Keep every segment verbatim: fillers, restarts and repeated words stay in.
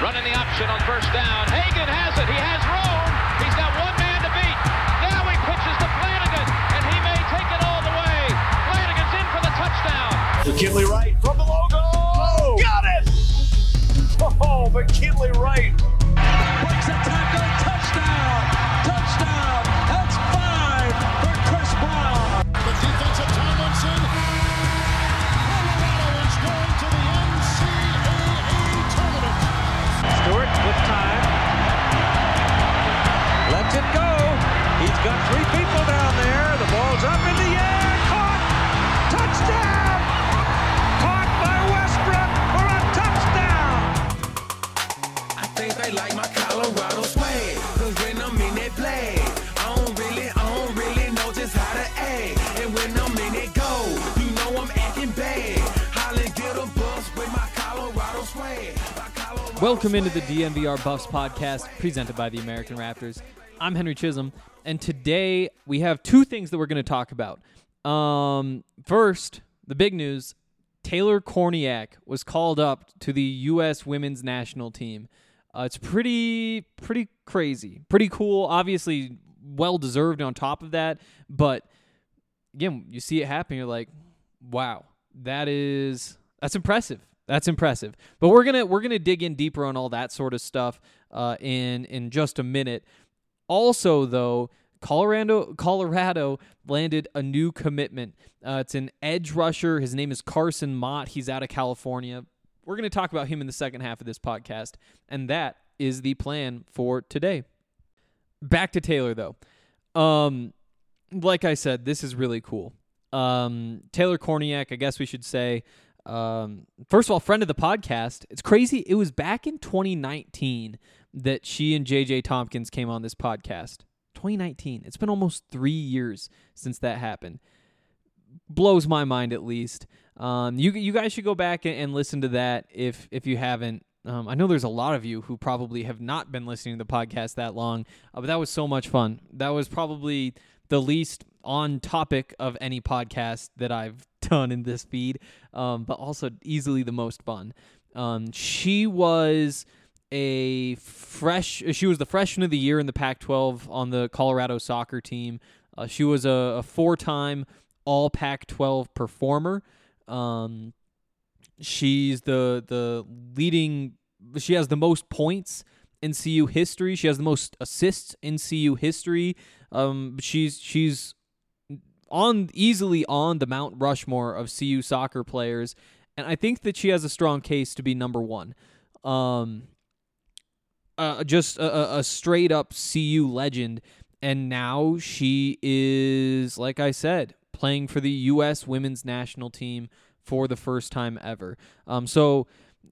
Running the option on first down. Hagan has it. He has room. He's got one man to beat. Now he pitches to Flanagan, and he may take it all the way. Flanagan's in for the touchdown. McKinley Wright from the logo. Oh, got it! Oh, McKinley Wright. Breaks a tackle. Touchdown. Touchdown. That's five for Chris Brown. The defensive Tomlinson. Colorado is going to the N C double A tournament. Stewart with time. Lets it go. He's got three people down there. The ball's up in the air. Caught. Touchdown. Caught by Westbrook for a touchdown. I think they like my Colorado swag. Cause when I'm in that play, I don't really, I don't really know just how to act. And when I'm in it go, you know I'm acting bad. Holly get a bus with my Colorado swag. My Colorado Welcome into the D N V R Buffs podcast presented by the American Raptors. I'm Henry Chisholm, and today we have two things that we're going to talk about. Um, first, the big news, Taylor Kornieck was called up to the U S women's national team. Uh, it's pretty, pretty crazy, pretty cool, obviously well-deserved on top of that, but again, you see it happen, you're like, wow, that is, that's impressive. That's impressive. But we're gonna we're gonna dig in deeper on all that sort of stuff uh, in in just a minute. Also, though, Colorado Colorado landed a new commitment. Uh, it's an edge rusher. His name is Carson Mott. He's out of California. We're gonna talk about him in the second half of this podcast, and that is the plan for today. Back to Taylor, though. Um, like I said, this is really cool. Um, Taylor Kornieck, I guess we should say. Um, first of all, friend of the podcast. It's crazy. It was back in twenty nineteen that she and J J Tompkins came on this podcast. twenty nineteen. It's been almost three years since that happened. Blows my mind, at least. Um, you you guys should go back and, and listen to that if if you haven't. Um, I know there's a lot of you who probably have not been listening to the podcast that long, uh, but that was so much fun. That was probably the least on topic of any podcast that I've done in this feed, um, but also easily the most fun. Um, she was a fresh, she was the freshman of the year in the Pac twelve on the Colorado soccer team. Uh, she was a, a four-time all Pac twelve performer. Um, she's the the leading, she has the most points in C U history. She has the most assists in C U history. Um, she's she's on easily on the Mount Rushmore of C U soccer players, and I think that she has a strong case to be number one. Um, uh, just a, a straight up C U legend, and now she is, like I said, playing for the U S women's national team for the first time ever. Um, so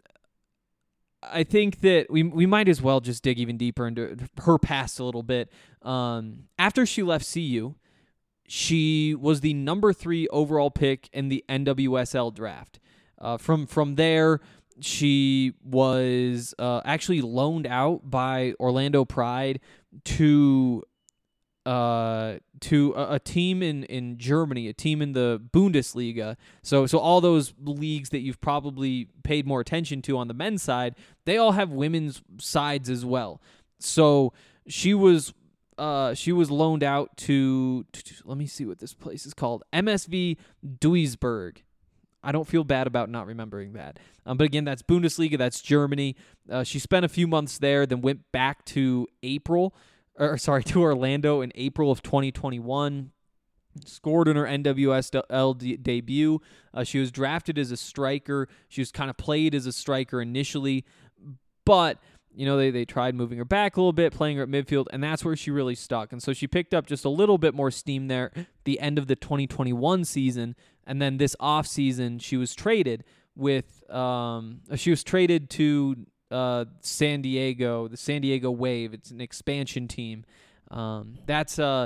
I think that we we might as well just dig even deeper into her past a little bit. Um, after she left C U, she was the number three overall pick in the N W S L draft. Uh, from from there, she was uh, actually loaned out by Orlando Pride to uh, to a, a team in, in Germany, a team in the Bundesliga. So so all those leagues that you've probably paid more attention to on the men's side, they all have women's sides as well. So she was uh, she was loaned out to, to, to, let me see what this place is called, M S V Duisburg. I don't feel bad about not remembering that. Um, but again, that's Bundesliga, that's Germany. Uh, she spent a few months there, then went back to April, or sorry, to Orlando in April of twenty twenty-one. Scored in her N W S L de- debut. Uh, she was drafted as a striker. She was kind of played as a striker initially, but you know they they tried moving her back a little bit, playing her at midfield, and that's where she really stuck. And so she picked up just a little bit more steam there at the end of the twenty twenty-one season, and then this off season she was traded with um she was traded to uh San Diego, the San Diego Wave. It's an expansion team. Um, that's uh.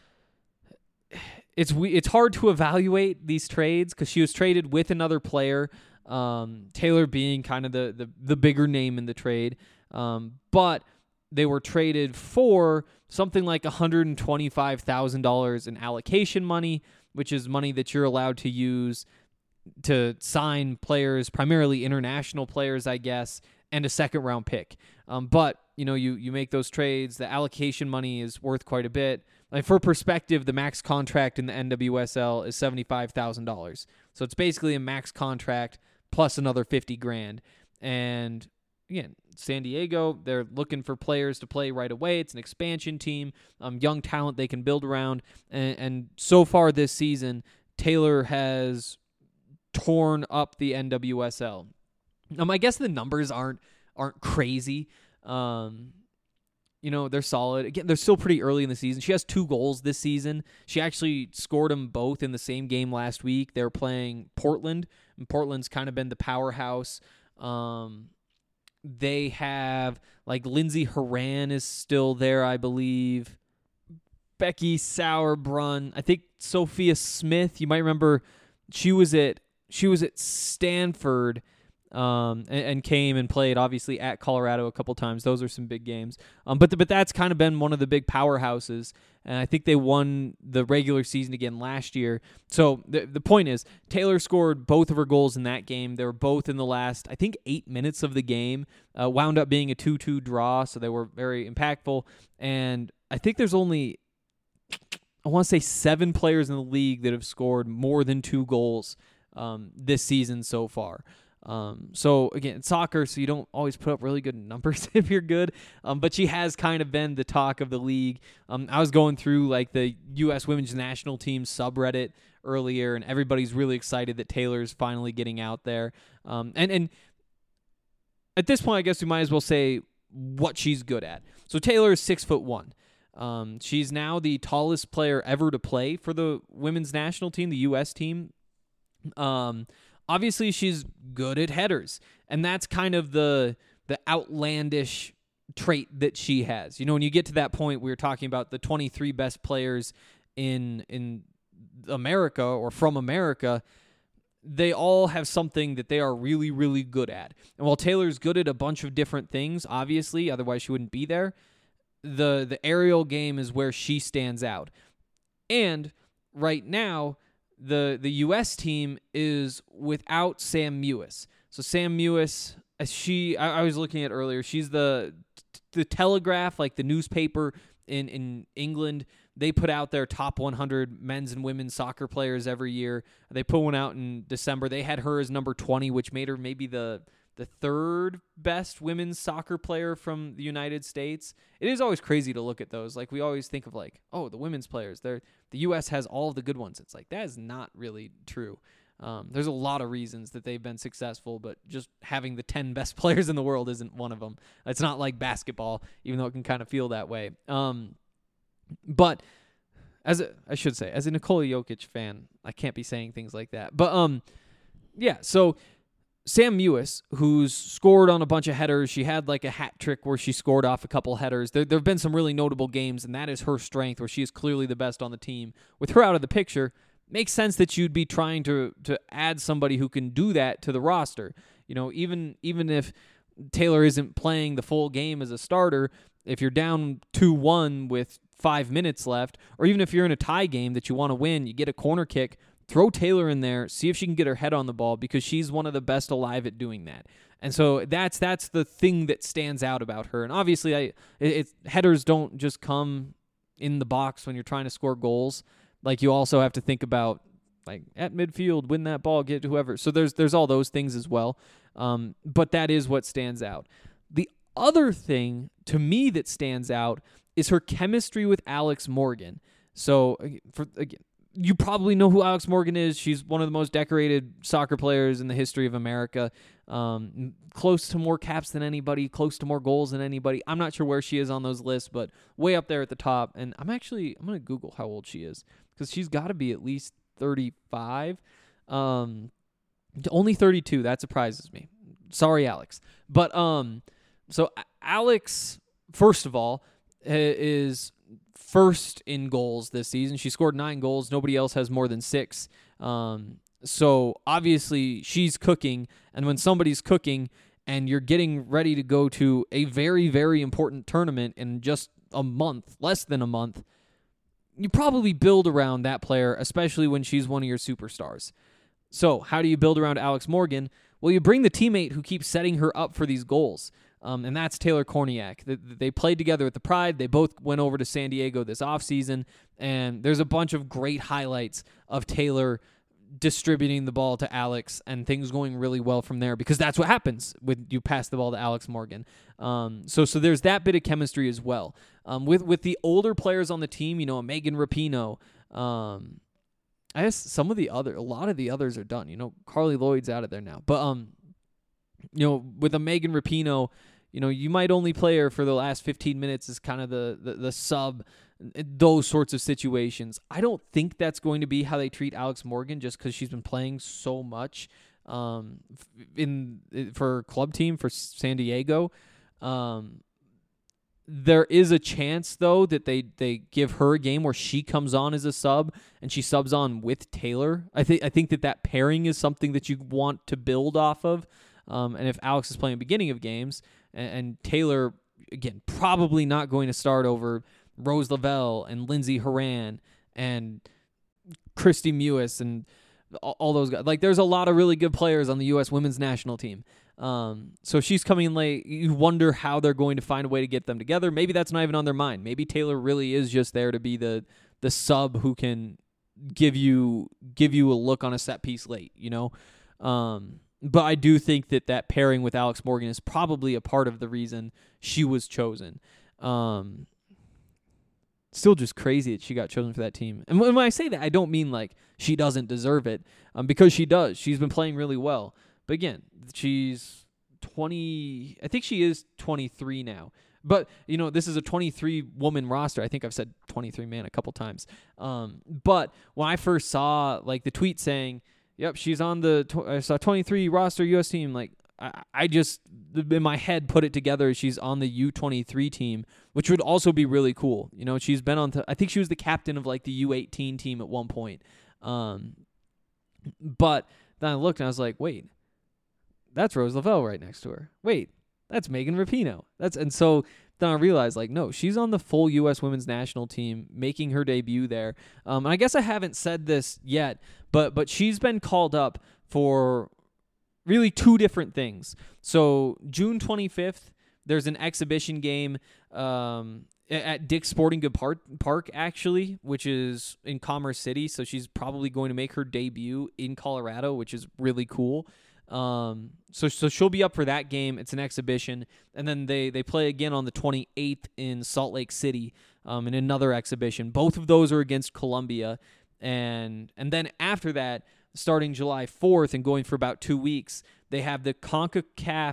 It's we. It's hard to evaluate these trades because she was traded with another player, um, Taylor being kind of the, the, the bigger name in the trade, um, but they were traded for something like one hundred twenty-five thousand dollars in allocation money, which is money that you're allowed to use to sign players, primarily international players, I guess, and a second round pick. Um, but you know, you you make those trades. The allocation money is worth quite a bit. Like for perspective, the max contract in the N W S L is seventy-five thousand dollars. So it's basically a max contract plus another fifty grand. And again, San Diego, they're looking for players to play right away. It's an expansion team, um, young talent they can build around. And, and so far this season, Taylor has torn up the N W S L. Um, I guess the numbers aren't aren't crazy. Um, you know, they're solid. Again, they're still pretty early in the season. She has two goals this season. She actually scored them both in the same game last week. They were playing Portland, and Portland's kind of been the powerhouse. Um, they have, like, Lindsey Horan is still there, I believe. Becky Sauerbrunn. I think Sophia Smith, you might remember, she was at she was at Stanford um, and, and came and played, obviously, at Colorado a couple times. Those are some big games. Um, but the, but that's kind of been one of the big powerhouses, and I think they won the regular season again last year. So the the point is, Taylor scored both of her goals in that game. They were both in the last, I think, eight minutes of the game. Uh, wound up being a two two draw, so they were very impactful. And I think there's only, I want to say, seven players in the league that have scored more than two goals um, this season so far. Um, so again, it's soccer, so you don't always put up really good numbers if you're good. Um, but she has kind of been the talk of the league. Um, I was going through like the U S Women's National Team subreddit earlier, and everybody's really excited that Taylor's finally getting out there. Um, and, and at this point, I guess we might as well say what she's good at. So Taylor is six foot one. Um, she's now the tallest player ever to play for the women's national team, the U S team. Um, Obviously, she's good at headers, and that's kind of the the outlandish trait that she has. You know, when you get to that point, we were talking about the twenty-three best players in in America or from America. They all have something that they are really, really good at. And while Taylor's good at a bunch of different things, obviously, otherwise she wouldn't be there, the the aerial game is where she stands out. And right now, The the U S team is without Sam Mewis. So Sam Mewis, as she I, I was looking at earlier, she's the the Telegraph, like the newspaper in, in England. They put out their top one hundred men's and women's soccer players every year. They put one out in December. They had her as number twenty, which made her maybe the the third best women's soccer player from the United States. It is always crazy to look at those. Like, we always think of, like, oh, the women's players, they're the U S has all of the good ones. It's like, that is not really true. Um, there's a lot of reasons that they've been successful, but just having the ten best players in the world isn't one of them. It's not like basketball, even though it can kind of feel that way. Um, but as a, I should say, as a Nikola Jokic fan, I can't be saying things like that. But um, yeah, so Sam Mewis, who's scored on a bunch of headers, she had like a hat trick where she scored off a couple headers. There there have been some really notable games, and that is her strength, where she is clearly the best on the team. With her out of the picture, makes sense that you'd be trying to to add somebody who can do that to the roster. You know, even even if Taylor isn't playing the full game as a starter, if you're down two one with five minutes left, or even if you're in a tie game that you want to win, you get a corner kick, throw Taylor in there, see if she can get her head on the ball, because she's one of the best alive at doing that. And so that's that's the thing that stands out about her. And obviously, I it, it, headers don't just come in the box when you're trying to score goals. Like, you also have to think about, like, at midfield, win that ball, get whoever. So there's there's all those things as well. Um, but that is what stands out. The other thing to me that stands out is her chemistry with Alex Morgan. So for again, you probably know who Alex Morgan is. She's one of the most decorated soccer players in the history of America. Um, close to more caps than anybody, close to more goals than anybody. I'm not sure where she is on those lists, but way up there at the top. And I'm actually, I'm going to Google how old she is, because she's got to be at least thirty-five. Um, only thirty-two. That surprises me. Sorry, Alex. But um, so Alex, first of all, is first in goals this season. She scored nine goals. Nobody else has more than six. Um, so obviously she's cooking. And when somebody's cooking and you're getting ready to go to a very, very important tournament in just a month, less than a month, you probably build around that player, especially when she's one of your superstars. So how do you build around Alex Morgan? Well, you bring the teammate who keeps setting her up for these goals, um, and that's Taylor Korniak. They, they played together at the Pride. They both went over to San Diego this offseason, and there's a bunch of great highlights of Taylor distributing the ball to Alex and things going really well from there, because that's what happens when you pass the ball to Alex Morgan. Um, so so there's that bit of chemistry as well. Um, with, with the older players on the team, you know, Megan Rapinoe, um, I guess some of the other, a lot of the others are done. You know, Carly Lloyd's out of there now. But, um, you know, with a Megan Rapinoe, you know, you might only play her for the last fifteen minutes as kind of the, the, the sub, those sorts of situations. I don't think that's going to be how they treat Alex Morgan, just because she's been playing so much um, in for her club team for San Diego. Um, there is a chance, though, that they, they give her a game where she comes on as a sub and she subs on with Taylor. I think I think that that pairing is something that you want to build off of. Um, and if Alex is playing beginning of games and, and Taylor, again, probably not going to start over Rose Lavelle and Lindsey Horan and Christy Mewis and all, all those guys. Like, there's a lot of really good players on the U S women's national team. Um, so if she's coming in late, you wonder how they're going to find a way to get them together. Maybe that's not even on their mind. Maybe Taylor really is just there to be the the sub who can give you give you a look on a set piece late, you know? Um, but I do think that that pairing with Alex Morgan is probably a part of the reason she was chosen. Um, still just crazy that she got chosen for that team. And when I say that, I don't mean like she doesn't deserve it, um, because she does. She's been playing really well. But again, she's twenty, I think she is twenty-three now. But, you know, this is a twenty-three woman roster. I think I've said twenty-three man a couple times. Um, but when I first saw, like, the tweet saying, yep, she's on the tw- I saw twenty-three roster U S team, like, I, I just, in my head, put it together. She's on the U twenty-three team, which would also be really cool. You know, she's been on, th- I think she was the captain of, like, the U eighteen team at one point. Um, but then I looked and I was like, wait. That's Rose Lavelle right next to her. Wait, that's Megan Rapinoe. That's and so then I realized, like, no, she's on the full U S women's national team, making her debut there. Um, and I guess I haven't said this yet, but but she's been called up for really two different things. So June twenty-fifth, there's an exhibition game um, at Dick's Sporting Good Park, Park, actually, which is in Commerce City. So she's probably going to make her debut in Colorado, which is really cool. Um, so, so she'll be up for that game. It's an exhibition. And then they, they play again on the twenty-eighth in Salt Lake City, um, in another exhibition. Both of those are against Columbia. And, and then after that, starting July fourth and going for about two weeks, they have the CONCACAF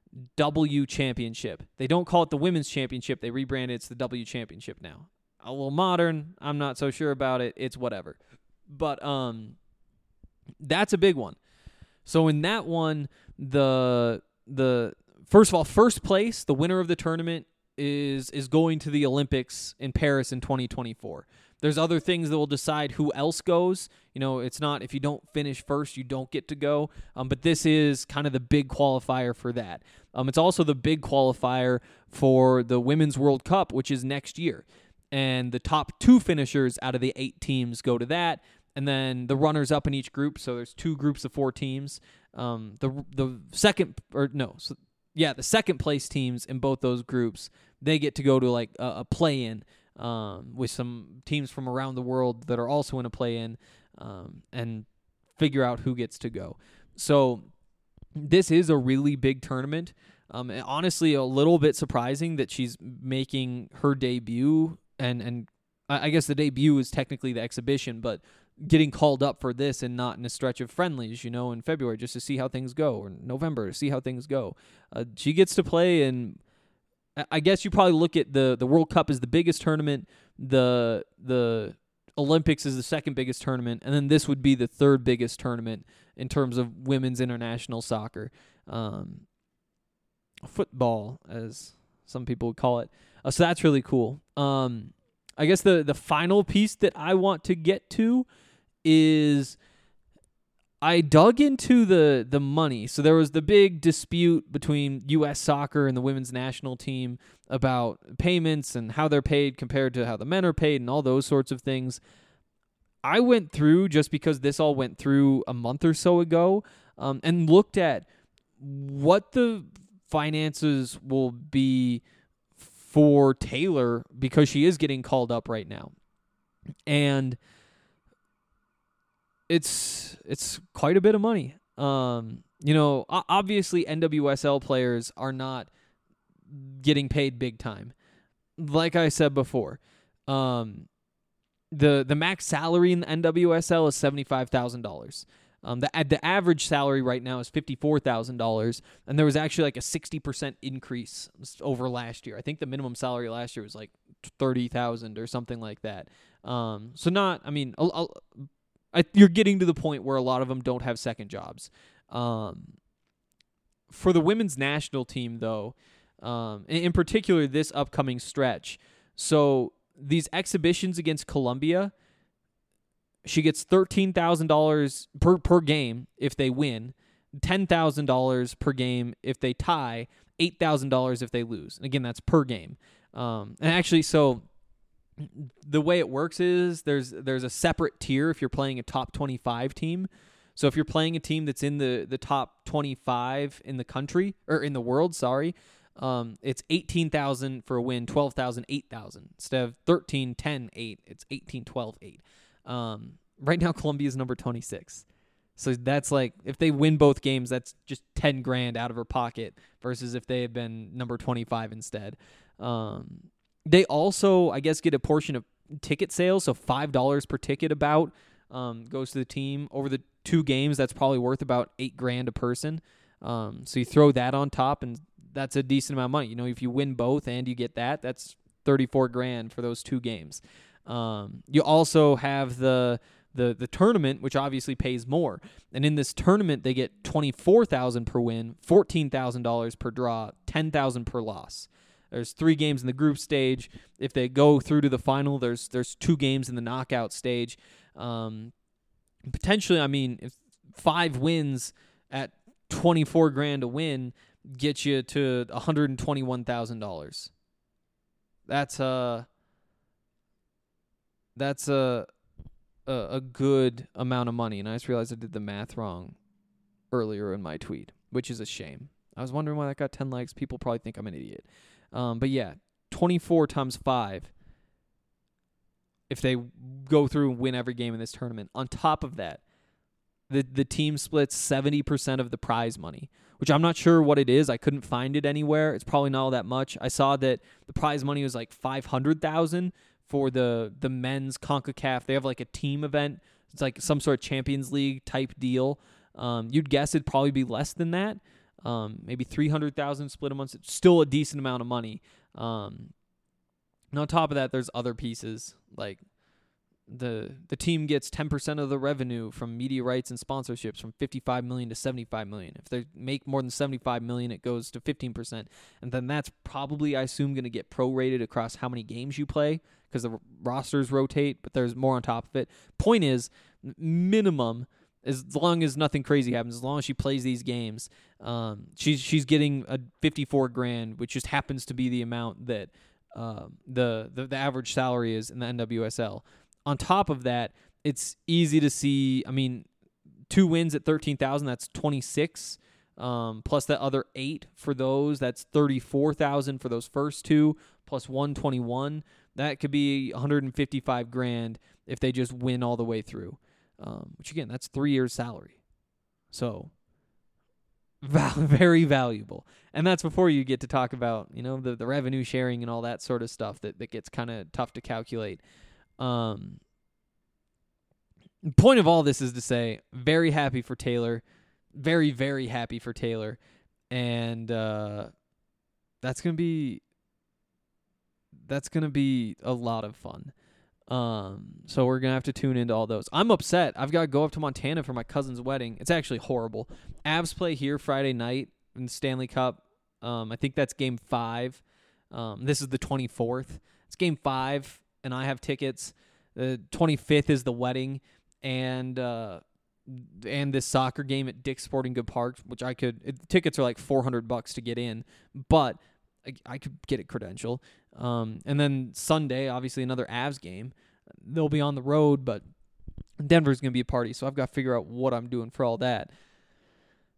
W Championship. They don't call it the Women's Championship. They rebranded it. It's the W Championship now. A little modern. I'm not so sure about it. It's whatever. But, um, that's a big one. So in that one, the the first of all, first place, the winner of the tournament is is going to the Olympics in Paris in twenty twenty-four. There's other things that will decide who else goes. You know, it's not if you don't finish first, you don't get to go. Um, but this is kind of the big qualifier for that. Um, it's also the big qualifier for the Women's World Cup, which is next year. And the top two finishers out of the eight teams go to that. And then the runners up in each group. So there's two groups of four teams. Um, the the second or no, so yeah, the second place teams in both those groups, they get to go to like a, a play-in um, with some teams from around the world that are also in a play-in, um, and figure out who gets to go. So this is a really big tournament. Um, and honestly, a little bit surprising that she's making her debut, and and I guess the debut is technically the exhibition, but getting called up for this and not in a stretch of friendlies, you know, in February just to see how things go, or November to see how things go. Uh, she gets to play, and I guess you probably look at the, the World Cup as the biggest tournament, the the Olympics is the second biggest tournament, and then this would be the third biggest tournament in terms of women's international soccer. Um, football, as some people would call it. Uh, so that's really cool. Um, I guess the, the final piece that I want to get to is I dug into the, the money. So there was the big dispute between U S Soccer and the women's national team about payments and how they're paid compared to how the men are paid and all those sorts of things. I went through, just because this all went through a month or so ago, um, and looked at what the finances will be for Taylor because she is getting called up right now. And it's it's quite a bit of money. Um, you know, obviously N W S L players are not getting paid big time. Like I said before, um, the the max salary in the N W S L is seventy-five thousand dollars. Um, the the average salary right now is fifty-four thousand dollars, and there was actually like a sixty percent increase over last year. I think the minimum salary last year was like thirty thousand dollars or something like that. Um, so not, I mean, I'll, I'll, I, you're getting to the point where a lot of them don't have second jobs. Um, for the women's national team, though, um, in, in particular this upcoming stretch, so these exhibitions against Colombia, she gets thirteen thousand dollars per, per game if they win, ten thousand dollars per game if they tie, eight thousand dollars if they lose. And again, that's per game. Um, and actually, so the way it works is there's there's a separate tier if you're playing a top twenty-five team. So if you're playing a team that's in the, the top twenty-five in the country, or in the world, sorry, um, it's eighteen thousand for a win, twelve thousand, eight thousand. Instead of thirteen, ten, eight, it's eighteen, twelve, eight. Um, right now, Colombia is number twenty-six. So that's like, if they win both games, that's just ten grand out of her pocket versus if they had been number twenty-five instead. Um, they also, I guess, get a portion of ticket sales. So five dollars per ticket about um, goes to the team. Over the two games, that's probably worth about eight grand a person. Um, so you throw that on top, and that's a decent amount of money. You know, if you win both and you get that, that's thirty-four grand for those two games. Um, you also have the, the, the tournament, which obviously pays more. And in this tournament, they get twenty-four thousand per win, fourteen thousand dollars per draw, ten thousand per loss. There's three games in the group stage. If they go through to the final, there's, there's two games in the knockout stage. Um, potentially, I mean, if five wins at twenty-four grand a win get you to one hundred twenty-one thousand dollars. That's uh That's a, a a good amount of money, and I just realized I did the math wrong earlier in my tweet, which is a shame. I was wondering why that got ten likes. People probably think I'm an idiot. Um, but yeah, twenty-four times five if they go through and win every game in this tournament. On top of that, the the team splits seventy percent of the prize money, which I'm not sure what it is. I couldn't find it anywhere. It's probably not all that much. I saw that the prize money was like five hundred thousand dollars for the, the men's CONCACAF. They have like a team event. It's like some sort of Champions League type deal. Um, you'd guess it'd probably be less than that. Um, maybe three hundred thousand dollars split amongst it. Still a decent amount of money. Um, and on top of that, there's other pieces. Like the the team gets ten percent of the revenue from media rights and sponsorships, from fifty-five million dollars to seventy-five million dollars. If they make more than seventy-five million dollars, it goes to fifteen percent. And then that's probably, I assume, going to get prorated across how many games you play, because the rosters rotate, but there's more on top of it. Point is, minimum, as long as nothing crazy happens, as long as she plays these games, um, she's she's getting a fifty-four grand, which just happens to be the amount that uh, the, the the average salary is in the N W S L. On top of that, it's easy to see. I mean, two wins at thirteen thousand, that's twenty-six. Um, plus that other eight for those, that's thirty-four thousand for those first two, plus one twenty-one. That could be one hundred fifty-five grand if they just win all the way through. Um, which again, that's three years' salary. So val- very valuable. And that's before you get to talk about, you know, the, the revenue sharing and all that sort of stuff that, that gets kind of tough to calculate. Um, point of all this is to say, very happy for Taylor. Very, very happy for Taylor. And uh, that's going to be that's going to be a lot of fun. Um, so we're going to have to tune into all those. I'm upset. I've got to go up to Montana for my cousin's wedding. It's actually horrible. Avs play here Friday night in the Stanley Cup. Um, I think that's game five. Um, this is the twenty-fourth. It's game five, and I have tickets. The twenty-fifth is the wedding, and uh, and this soccer game at Dick's Sporting Good Park, which I could. It, tickets are like four hundred bucks to get in, but I, I could get a credential. Um, and then Sunday, obviously another Avs game. They'll be on the road, but Denver's going to be a party, so I've got to figure out what I'm doing for all that.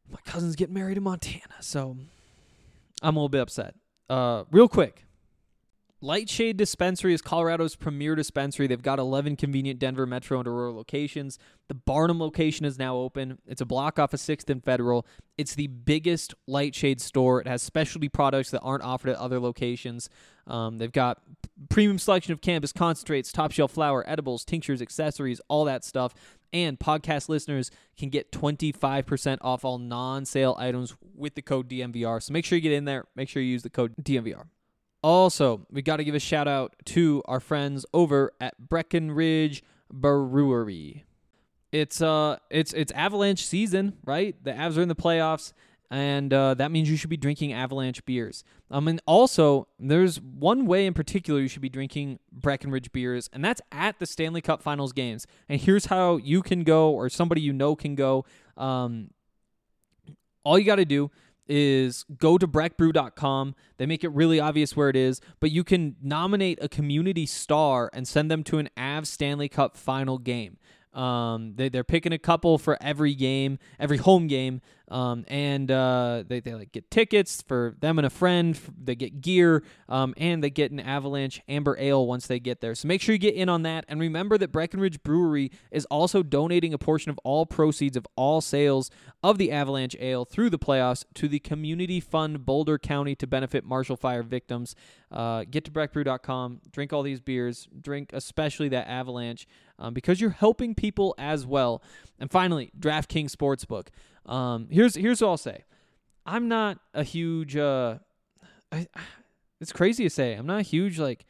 my cousin's getting married in Montana, so I'm a little bit upset. Uh, real quick. Lightshade Dispensary is Colorado's premier dispensary. They've got eleven convenient Denver Metro and Aurora locations. The Barnum location is now open. It's a block off of sixth and Federal. It's the biggest Lightshade store. It has specialty products that aren't offered at other locations. Um, they've got premium selection of cannabis concentrates, top shelf flower, edibles, tinctures, accessories, all that stuff. And podcast listeners can get twenty-five percent off all non-sale items with the code D M V R. So make sure you get in there. Make sure you use the code D M V R. Also, we got to give a shout out to our friends over at Breckenridge Brewery. It's uh, it's it's Avalanche season, right? The Avs are in the playoffs, and uh, that means you should be drinking Avalanche beers. Um, and also, there's one way in particular you should be drinking Breckenridge beers, and that's at the Stanley Cup Finals games. And here's how you can go, or somebody you know can go. Um, all you got to do is go to breck brew dot com. They make it really obvious where it is, but you can nominate a community star and send them to an Avs Stanley Cup final game. Um, they, they're picking a couple for every game, every home game, um, and uh, they, they like get tickets for them and a friend. They get gear, um, and they get an Avalanche Amber Ale once they get there. So make sure you get in on that. And remember that Breckenridge Brewery is also donating a portion of all proceeds of all sales of the Avalanche Ale through the playoffs to the Community Fund Boulder County to benefit Marshall Fire victims. Uh, get to breck brew dot com, drink all these beers, drink especially that Avalanche, um, because you're helping people as well. And finally, DraftKings Sportsbook. Um, here's here's what I'll say. I'm not a huge. Uh, I, it's crazy to say. I'm not a huge like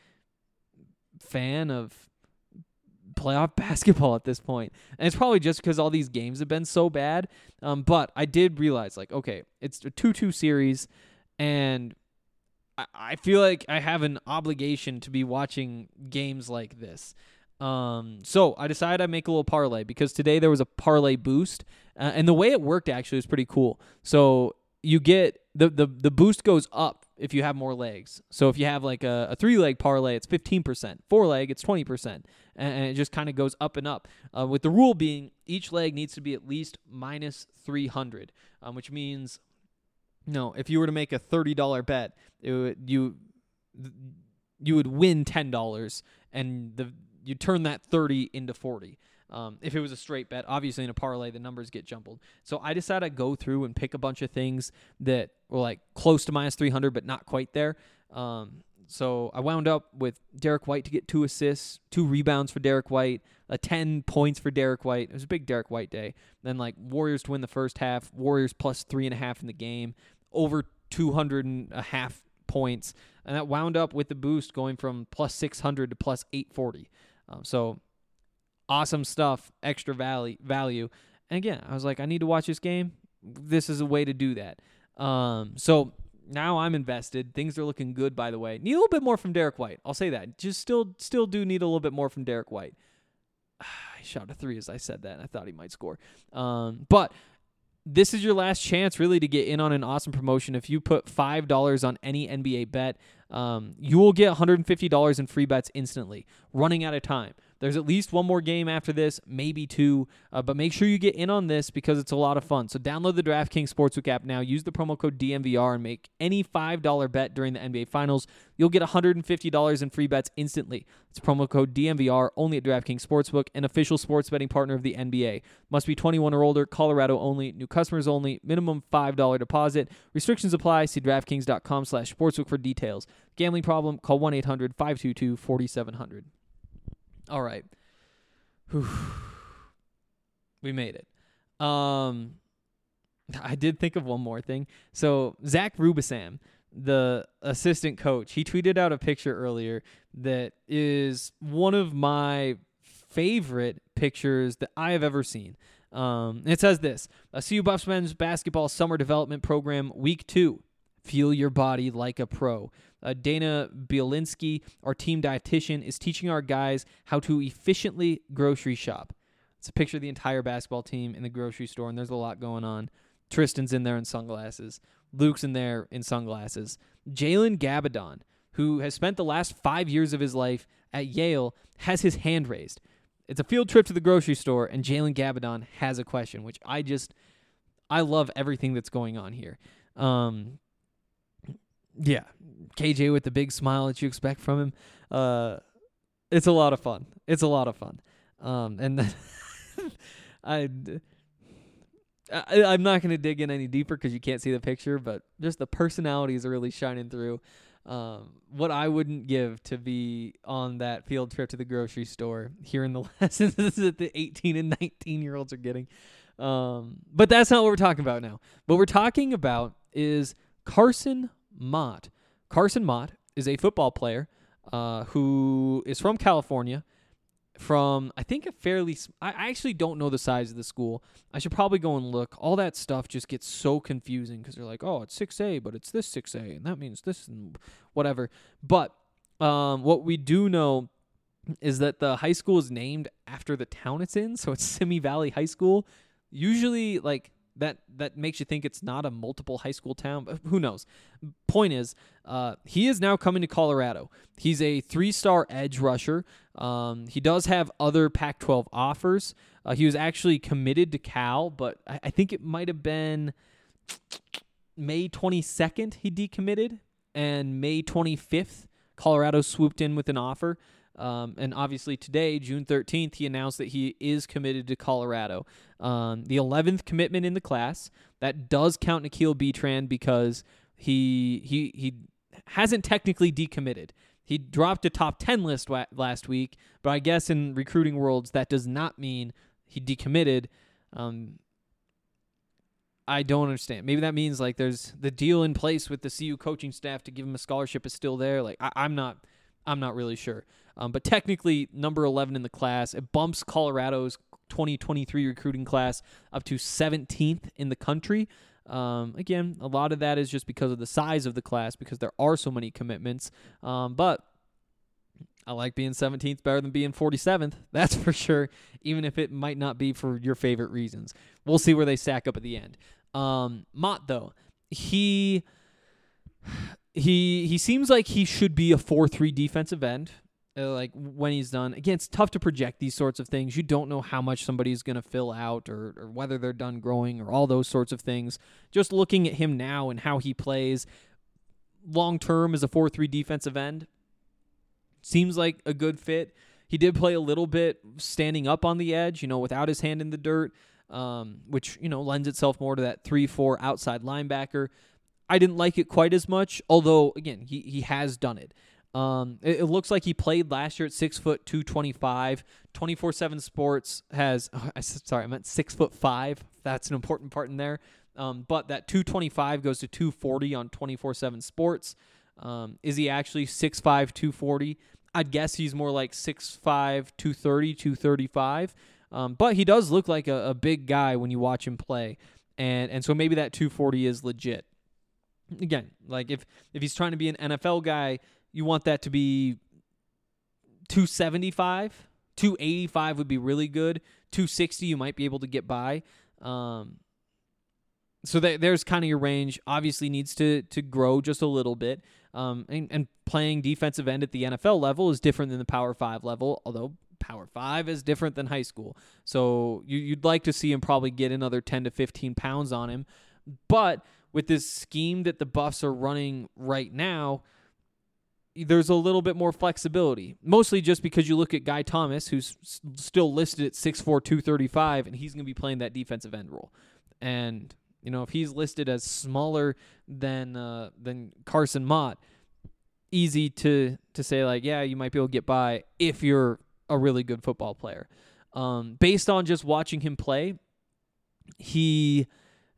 fan of playoff basketball at this point, and it's probably just because all these games have been so bad. Um, but I did realize, like, okay, it's a two two series, and I, I feel like I have an obligation to be watching games like this. Um, so I decided I'd make a little parlay because today there was a parlay boost, uh, and the way it worked actually was pretty cool. So you get the, the, the boost goes up if you have more legs. So if you have like a, a three leg parlay, it's fifteen percent, four leg, it's twenty percent, and, and it just kind of goes up and up, uh, with the rule being each leg needs to be at least minus three hundred, um, which means, no, if you were to make a thirty dollars bet, it would, you, you would win ten dollars, and the, you turn that thirty into forty. Um, if it was a straight bet, obviously in a parlay, the numbers get jumbled. So I decided I'd go through and pick a bunch of things that were like close to minus three hundred, but not quite there. Um, so I wound up with Derek White to get two assists, two rebounds for Derek White, uh, ten points for Derek White. It was a big Derek White day. Then like Warriors to win the first half, Warriors plus three and a half in the game, over two hundred and a half points. And that wound up with the boost going from plus six hundred to plus eight forty. Um, so awesome stuff, extra value, value. And again, I was like, I need to watch this game. This is a way to do that. Um, so now I'm invested. Things are looking good, by the way. Need a little bit more from Derek White. I'll say that. Just still, still do need a little bit more from Derek White. I shot a three as I said that, and I thought he might score. Um, but this is your last chance, really, to get in on an awesome promotion. If you put five dollars on any N B A bet, um, you will get one hundred fifty dollars in free bets instantly, running out of time. There's at least one more game after this, maybe two, uh, but make sure you get in on this because it's a lot of fun. So download the DraftKings Sportsbook app now. Use the promo code D M V R and make any five dollars bet during the N B A Finals. You'll get one hundred fifty dollars in free bets instantly. It's promo code D M V R only at DraftKings Sportsbook, an official sports betting partner of the N B A. Must be twenty-one or older, Colorado only, new customers only, minimum five dollars deposit. Restrictions apply. See DraftKings.com slash sportsbook for details. Gambling problem? Call one eight hundred five two two four seven zero zero. All right. Whew. We made it. Um, I did think of one more thing. So Zach Rubisam, the assistant coach, he tweeted out a picture earlier that is one of my favorite pictures that I have ever seen. Um, it says this: a C U Buffs men's basketball summer development program, week two. Feel your body like a pro. Uh, Dana Bielinski, our team dietitian, is teaching our guys how to efficiently grocery shop. It's a picture of the entire basketball team in the grocery store, and there's a lot going on. Tristan's in there in sunglasses. Luke's in there in sunglasses. Jalen Gabadon, who has spent the last five years of his life at Yale, has his hand raised. It's a field trip to the grocery store, and Jalen Gabadon has a question, which I just... I love everything that's going on here. Um, yeah, K J with the big smile that you expect from him. Uh, it's a lot of fun. It's a lot of fun. Um, and then I, I, I'm not going to dig in any deeper because you can't see the picture, but just the personalities are really shining through. Um, what I wouldn't give to be on that field trip to the grocery store, hearing the lessons that the eighteen and nineteen year olds are getting. Um, but that's not what we're talking about now. What we're talking about is Carson Mott. Carson Mott is a football player uh, who is from California, from, I think, a fairly, I actually don't know the size of the school. I should probably go and look. All that stuff just gets so confusing because they're like, oh, it's six A, but it's this six A, and that means this and whatever. But um, what we do know is that the high school is named after the town it's in, so it's Simi Valley High School. Usually, like, that that makes you think it's not a multiple high school town, but who knows? Point is, uh, he is now coming to Colorado. He's a three-star edge rusher. Um, he does have other Pac twelve offers. Uh, he was actually committed to Cal, but I, I think it might have been May twenty-second he decommitted, and May twenty-fifth, Colorado swooped in with an offer. Um, and obviously today, June thirteenth, he announced that he is committed to Colorado. Um, the eleventh commitment in the class. That does count N'Keal Betran because he he he hasn't technically decommitted. He dropped a top ten list wa- last week, but I guess in recruiting worlds that does not mean he decommitted. Um, I don't understand. Maybe that means like there's the deal in place with the C U coaching staff to give him a scholarship is still there. Like I, I'm not. I'm not really sure. Um, but technically, number eleven in the class, it bumps Colorado's twenty twenty-three recruiting class up to seventeenth in the country. Um, again, a lot of that is just because of the size of the class, because there are so many commitments. Um, but I like being seventeenth better than being forty-seventh. That's for sure, even if it might not be for your favorite reasons. We'll see where they stack up at the end. Um, Mott, though, he... He he seems like he should be a four three defensive end, uh, like when he's done. Again, it's tough to project these sorts of things. You don't know how much somebody's going to fill out or, or whether they're done growing or all those sorts of things. Just looking at him now and how he plays long-term as a four three defensive end, seems like a good fit. He did play a little bit standing up on the edge, you know, without his hand in the dirt, um, which, you know, lends itself more to that three four outside linebacker. I didn't like it quite as much, although, again, he, he has done it. Um, it. It looks like he played last year at six foot two twenty-five. twenty-four seven Sports has, oh, I, sorry, I meant six foot five. That's an important part in there. Um, but that two twenty-five goes to two forty on twenty-four seven Sports. Um, is he actually six five, two forty? I'd guess he's more like six five, two thirty, two thirty-five. Um, but he does look like a, a big guy when you watch him play. And, and so maybe that two forty is legit. Again, like if, if he's trying to be an N F L guy, you want that to be two seventy-five. two eighty-five would be really good. two sixty you might be able to get by. Um, so that, there's kind of your range. Obviously needs to to grow just a little bit. Um, and, and playing defensive end at the N F L level is different than the Power five level, although Power five is different than high school. So you, you'd like to see him probably get another ten to fifteen pounds on him. But with this scheme that the Buffs are running right now, there's a little bit more flexibility. Mostly just because you look at Guy Thomas, who's s- still listed at six four, two thirty-five, and he's going to be playing that defensive end role. And, you know, if he's listed as smaller than uh, than Carson Mott, easy to, to say, like, yeah, you might be able to get by if you're a really good football player. Um, based on just watching him play, he...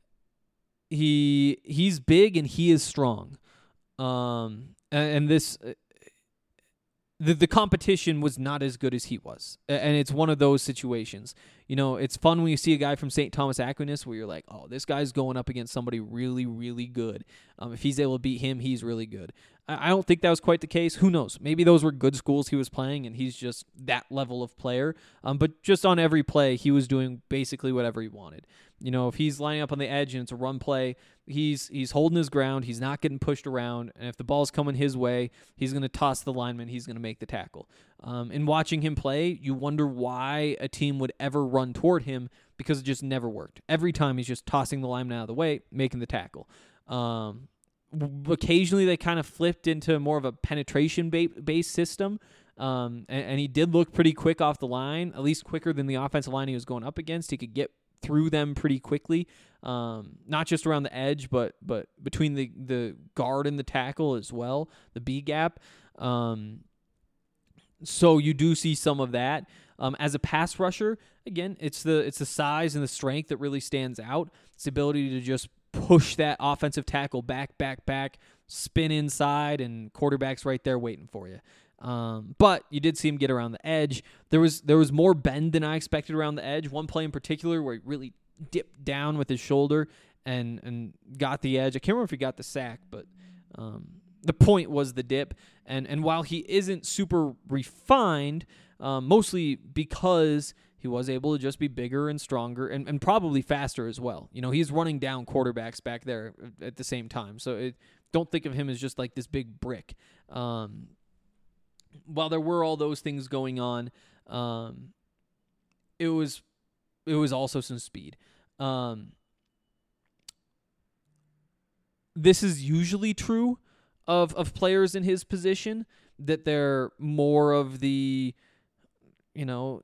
He he's big and he is strong, um, and, and this uh, the the competition was not as good as he was, and it's one of those situations. You know, it's fun when you see a guy from Saint Thomas Aquinas where you're like, oh, this guy's going up against somebody really, really good. Um, if he's able to beat him, he's really good. I, I don't think that was quite the case. Who knows? Maybe those were good schools he was playing, and he's just that level of player. Um, but just on every play, he was doing basically whatever he wanted. You know, if he's lining up on the edge and it's a run play, he's he's holding his ground. He's not getting pushed around. And if the ball's coming his way, he's going to toss the lineman. He's going to make the tackle. Um, in watching him play, you wonder why a team would ever run toward him because it just never worked. Every time he's just tossing the lineman out of the way, making the tackle. Um, occasionally they kind of flipped into more of a penetration-based system, um, and, and he did look pretty quick off the line, at least quicker than the offensive line he was going up against. He could get through them pretty quickly, um, not just around the edge, but but between the, the guard and the tackle as well, the B gap. Um, so you do see some of that. Um, as a pass rusher, again, it's the it's the size and the strength that really stands out. It's the ability to just push that offensive tackle back, back, back, spin inside, and quarterback's right there waiting for you. Um, but you did see him get around the edge. There was there was more bend than I expected around the edge. One play in particular where he really dipped down with his shoulder and and got the edge. I can't remember if he got the sack, but um, the point was the dip. And and while he isn't super refined, um, mostly because he was able to just be bigger and stronger and, and probably faster as well. You know, he's running down quarterbacks back there at the same time. So it, don't think of him as just like this big brick. Um, while there were all those things going on, um, it was it was also some speed. Um, this is usually true of of players in his position, that they're more of the, you know,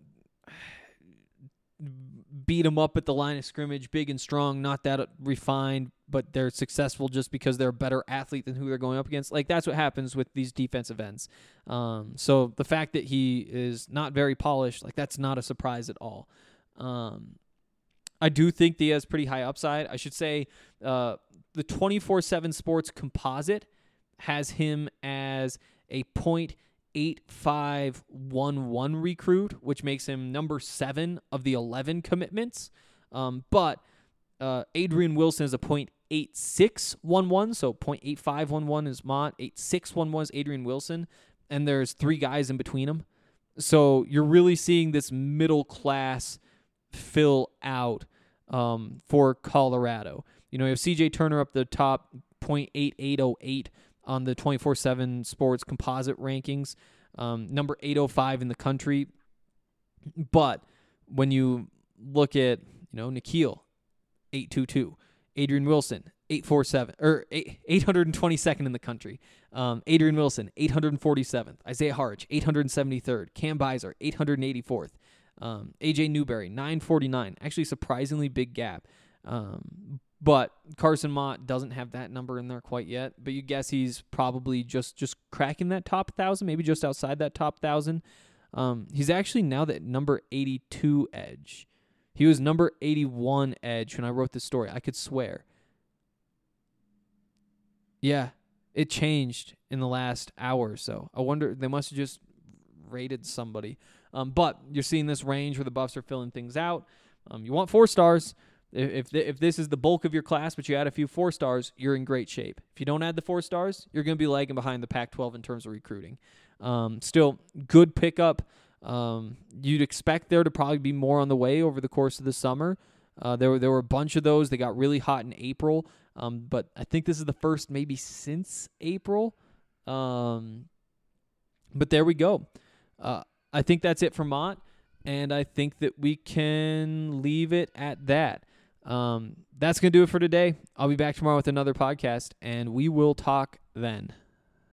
beat them up at the line of scrimmage, big and strong, not that refined, but they're successful just because they're a better athlete than who they're going up against. Like, that's what happens with these defensive ends. Um, so the fact that he is not very polished, like, that's not a surprise at all. Um, I do think that he has pretty high upside. I should say uh, the twenty-four seven Sports composite has him as a point eight five one one recruit, which makes him number seven of the eleven commitments. Um, but uh, Adrian Wilson is a point eight six one one, so point eight five one one is Mott, eight six one one is Adrian Wilson, and there's three guys in between them. So you're really seeing this middle class fill out um, for Colorado. You know, you have C J Turner up the top, point eight eight oh eight on the twenty-four seven Sports composite rankings, um, number eight oh five in the country. But when you look at, you know, Nikhil, eight two two, Adrian Wilson, eight forty-seven, or eight hundred twenty-second in the country, um, Adrian Wilson, eight hundred forty-seventh, Isaiah Harch, eight hundred seventy-third, Cam Beiser, eight hundred eighty-fourth, um, A J Newberry, nine forty-nine, actually surprisingly big gap. Um, But Carson Mott doesn't have that number in there quite yet. But you guess he's probably just, just cracking that top one thousand, maybe just outside that top one thousand. Um, he's actually now that number eighty-two edge. He was number eighty-one edge when I wrote this story. I could swear. Yeah, it changed in the last hour or so. I wonder, they must have just rated somebody. Um, but you're seeing this range where the Buffs are filling things out. Um, you want four stars. If th- if this is the bulk of your class, but you add a few four stars, you're in great shape. If you don't add the four stars, you're going to be lagging behind the Pac twelve in terms of recruiting. Um, still, good pickup. Um, you'd expect there to probably be more on the way over the course of the summer. Uh, there were there were a bunch of those. They got really hot in April, um, but I think this is the first maybe since April. Um, but there we go. Uh, I think that's it for Mott, and I think that we can leave it at that. Um, that's going to do it for today. I'll be back tomorrow with another podcast, and we will talk then.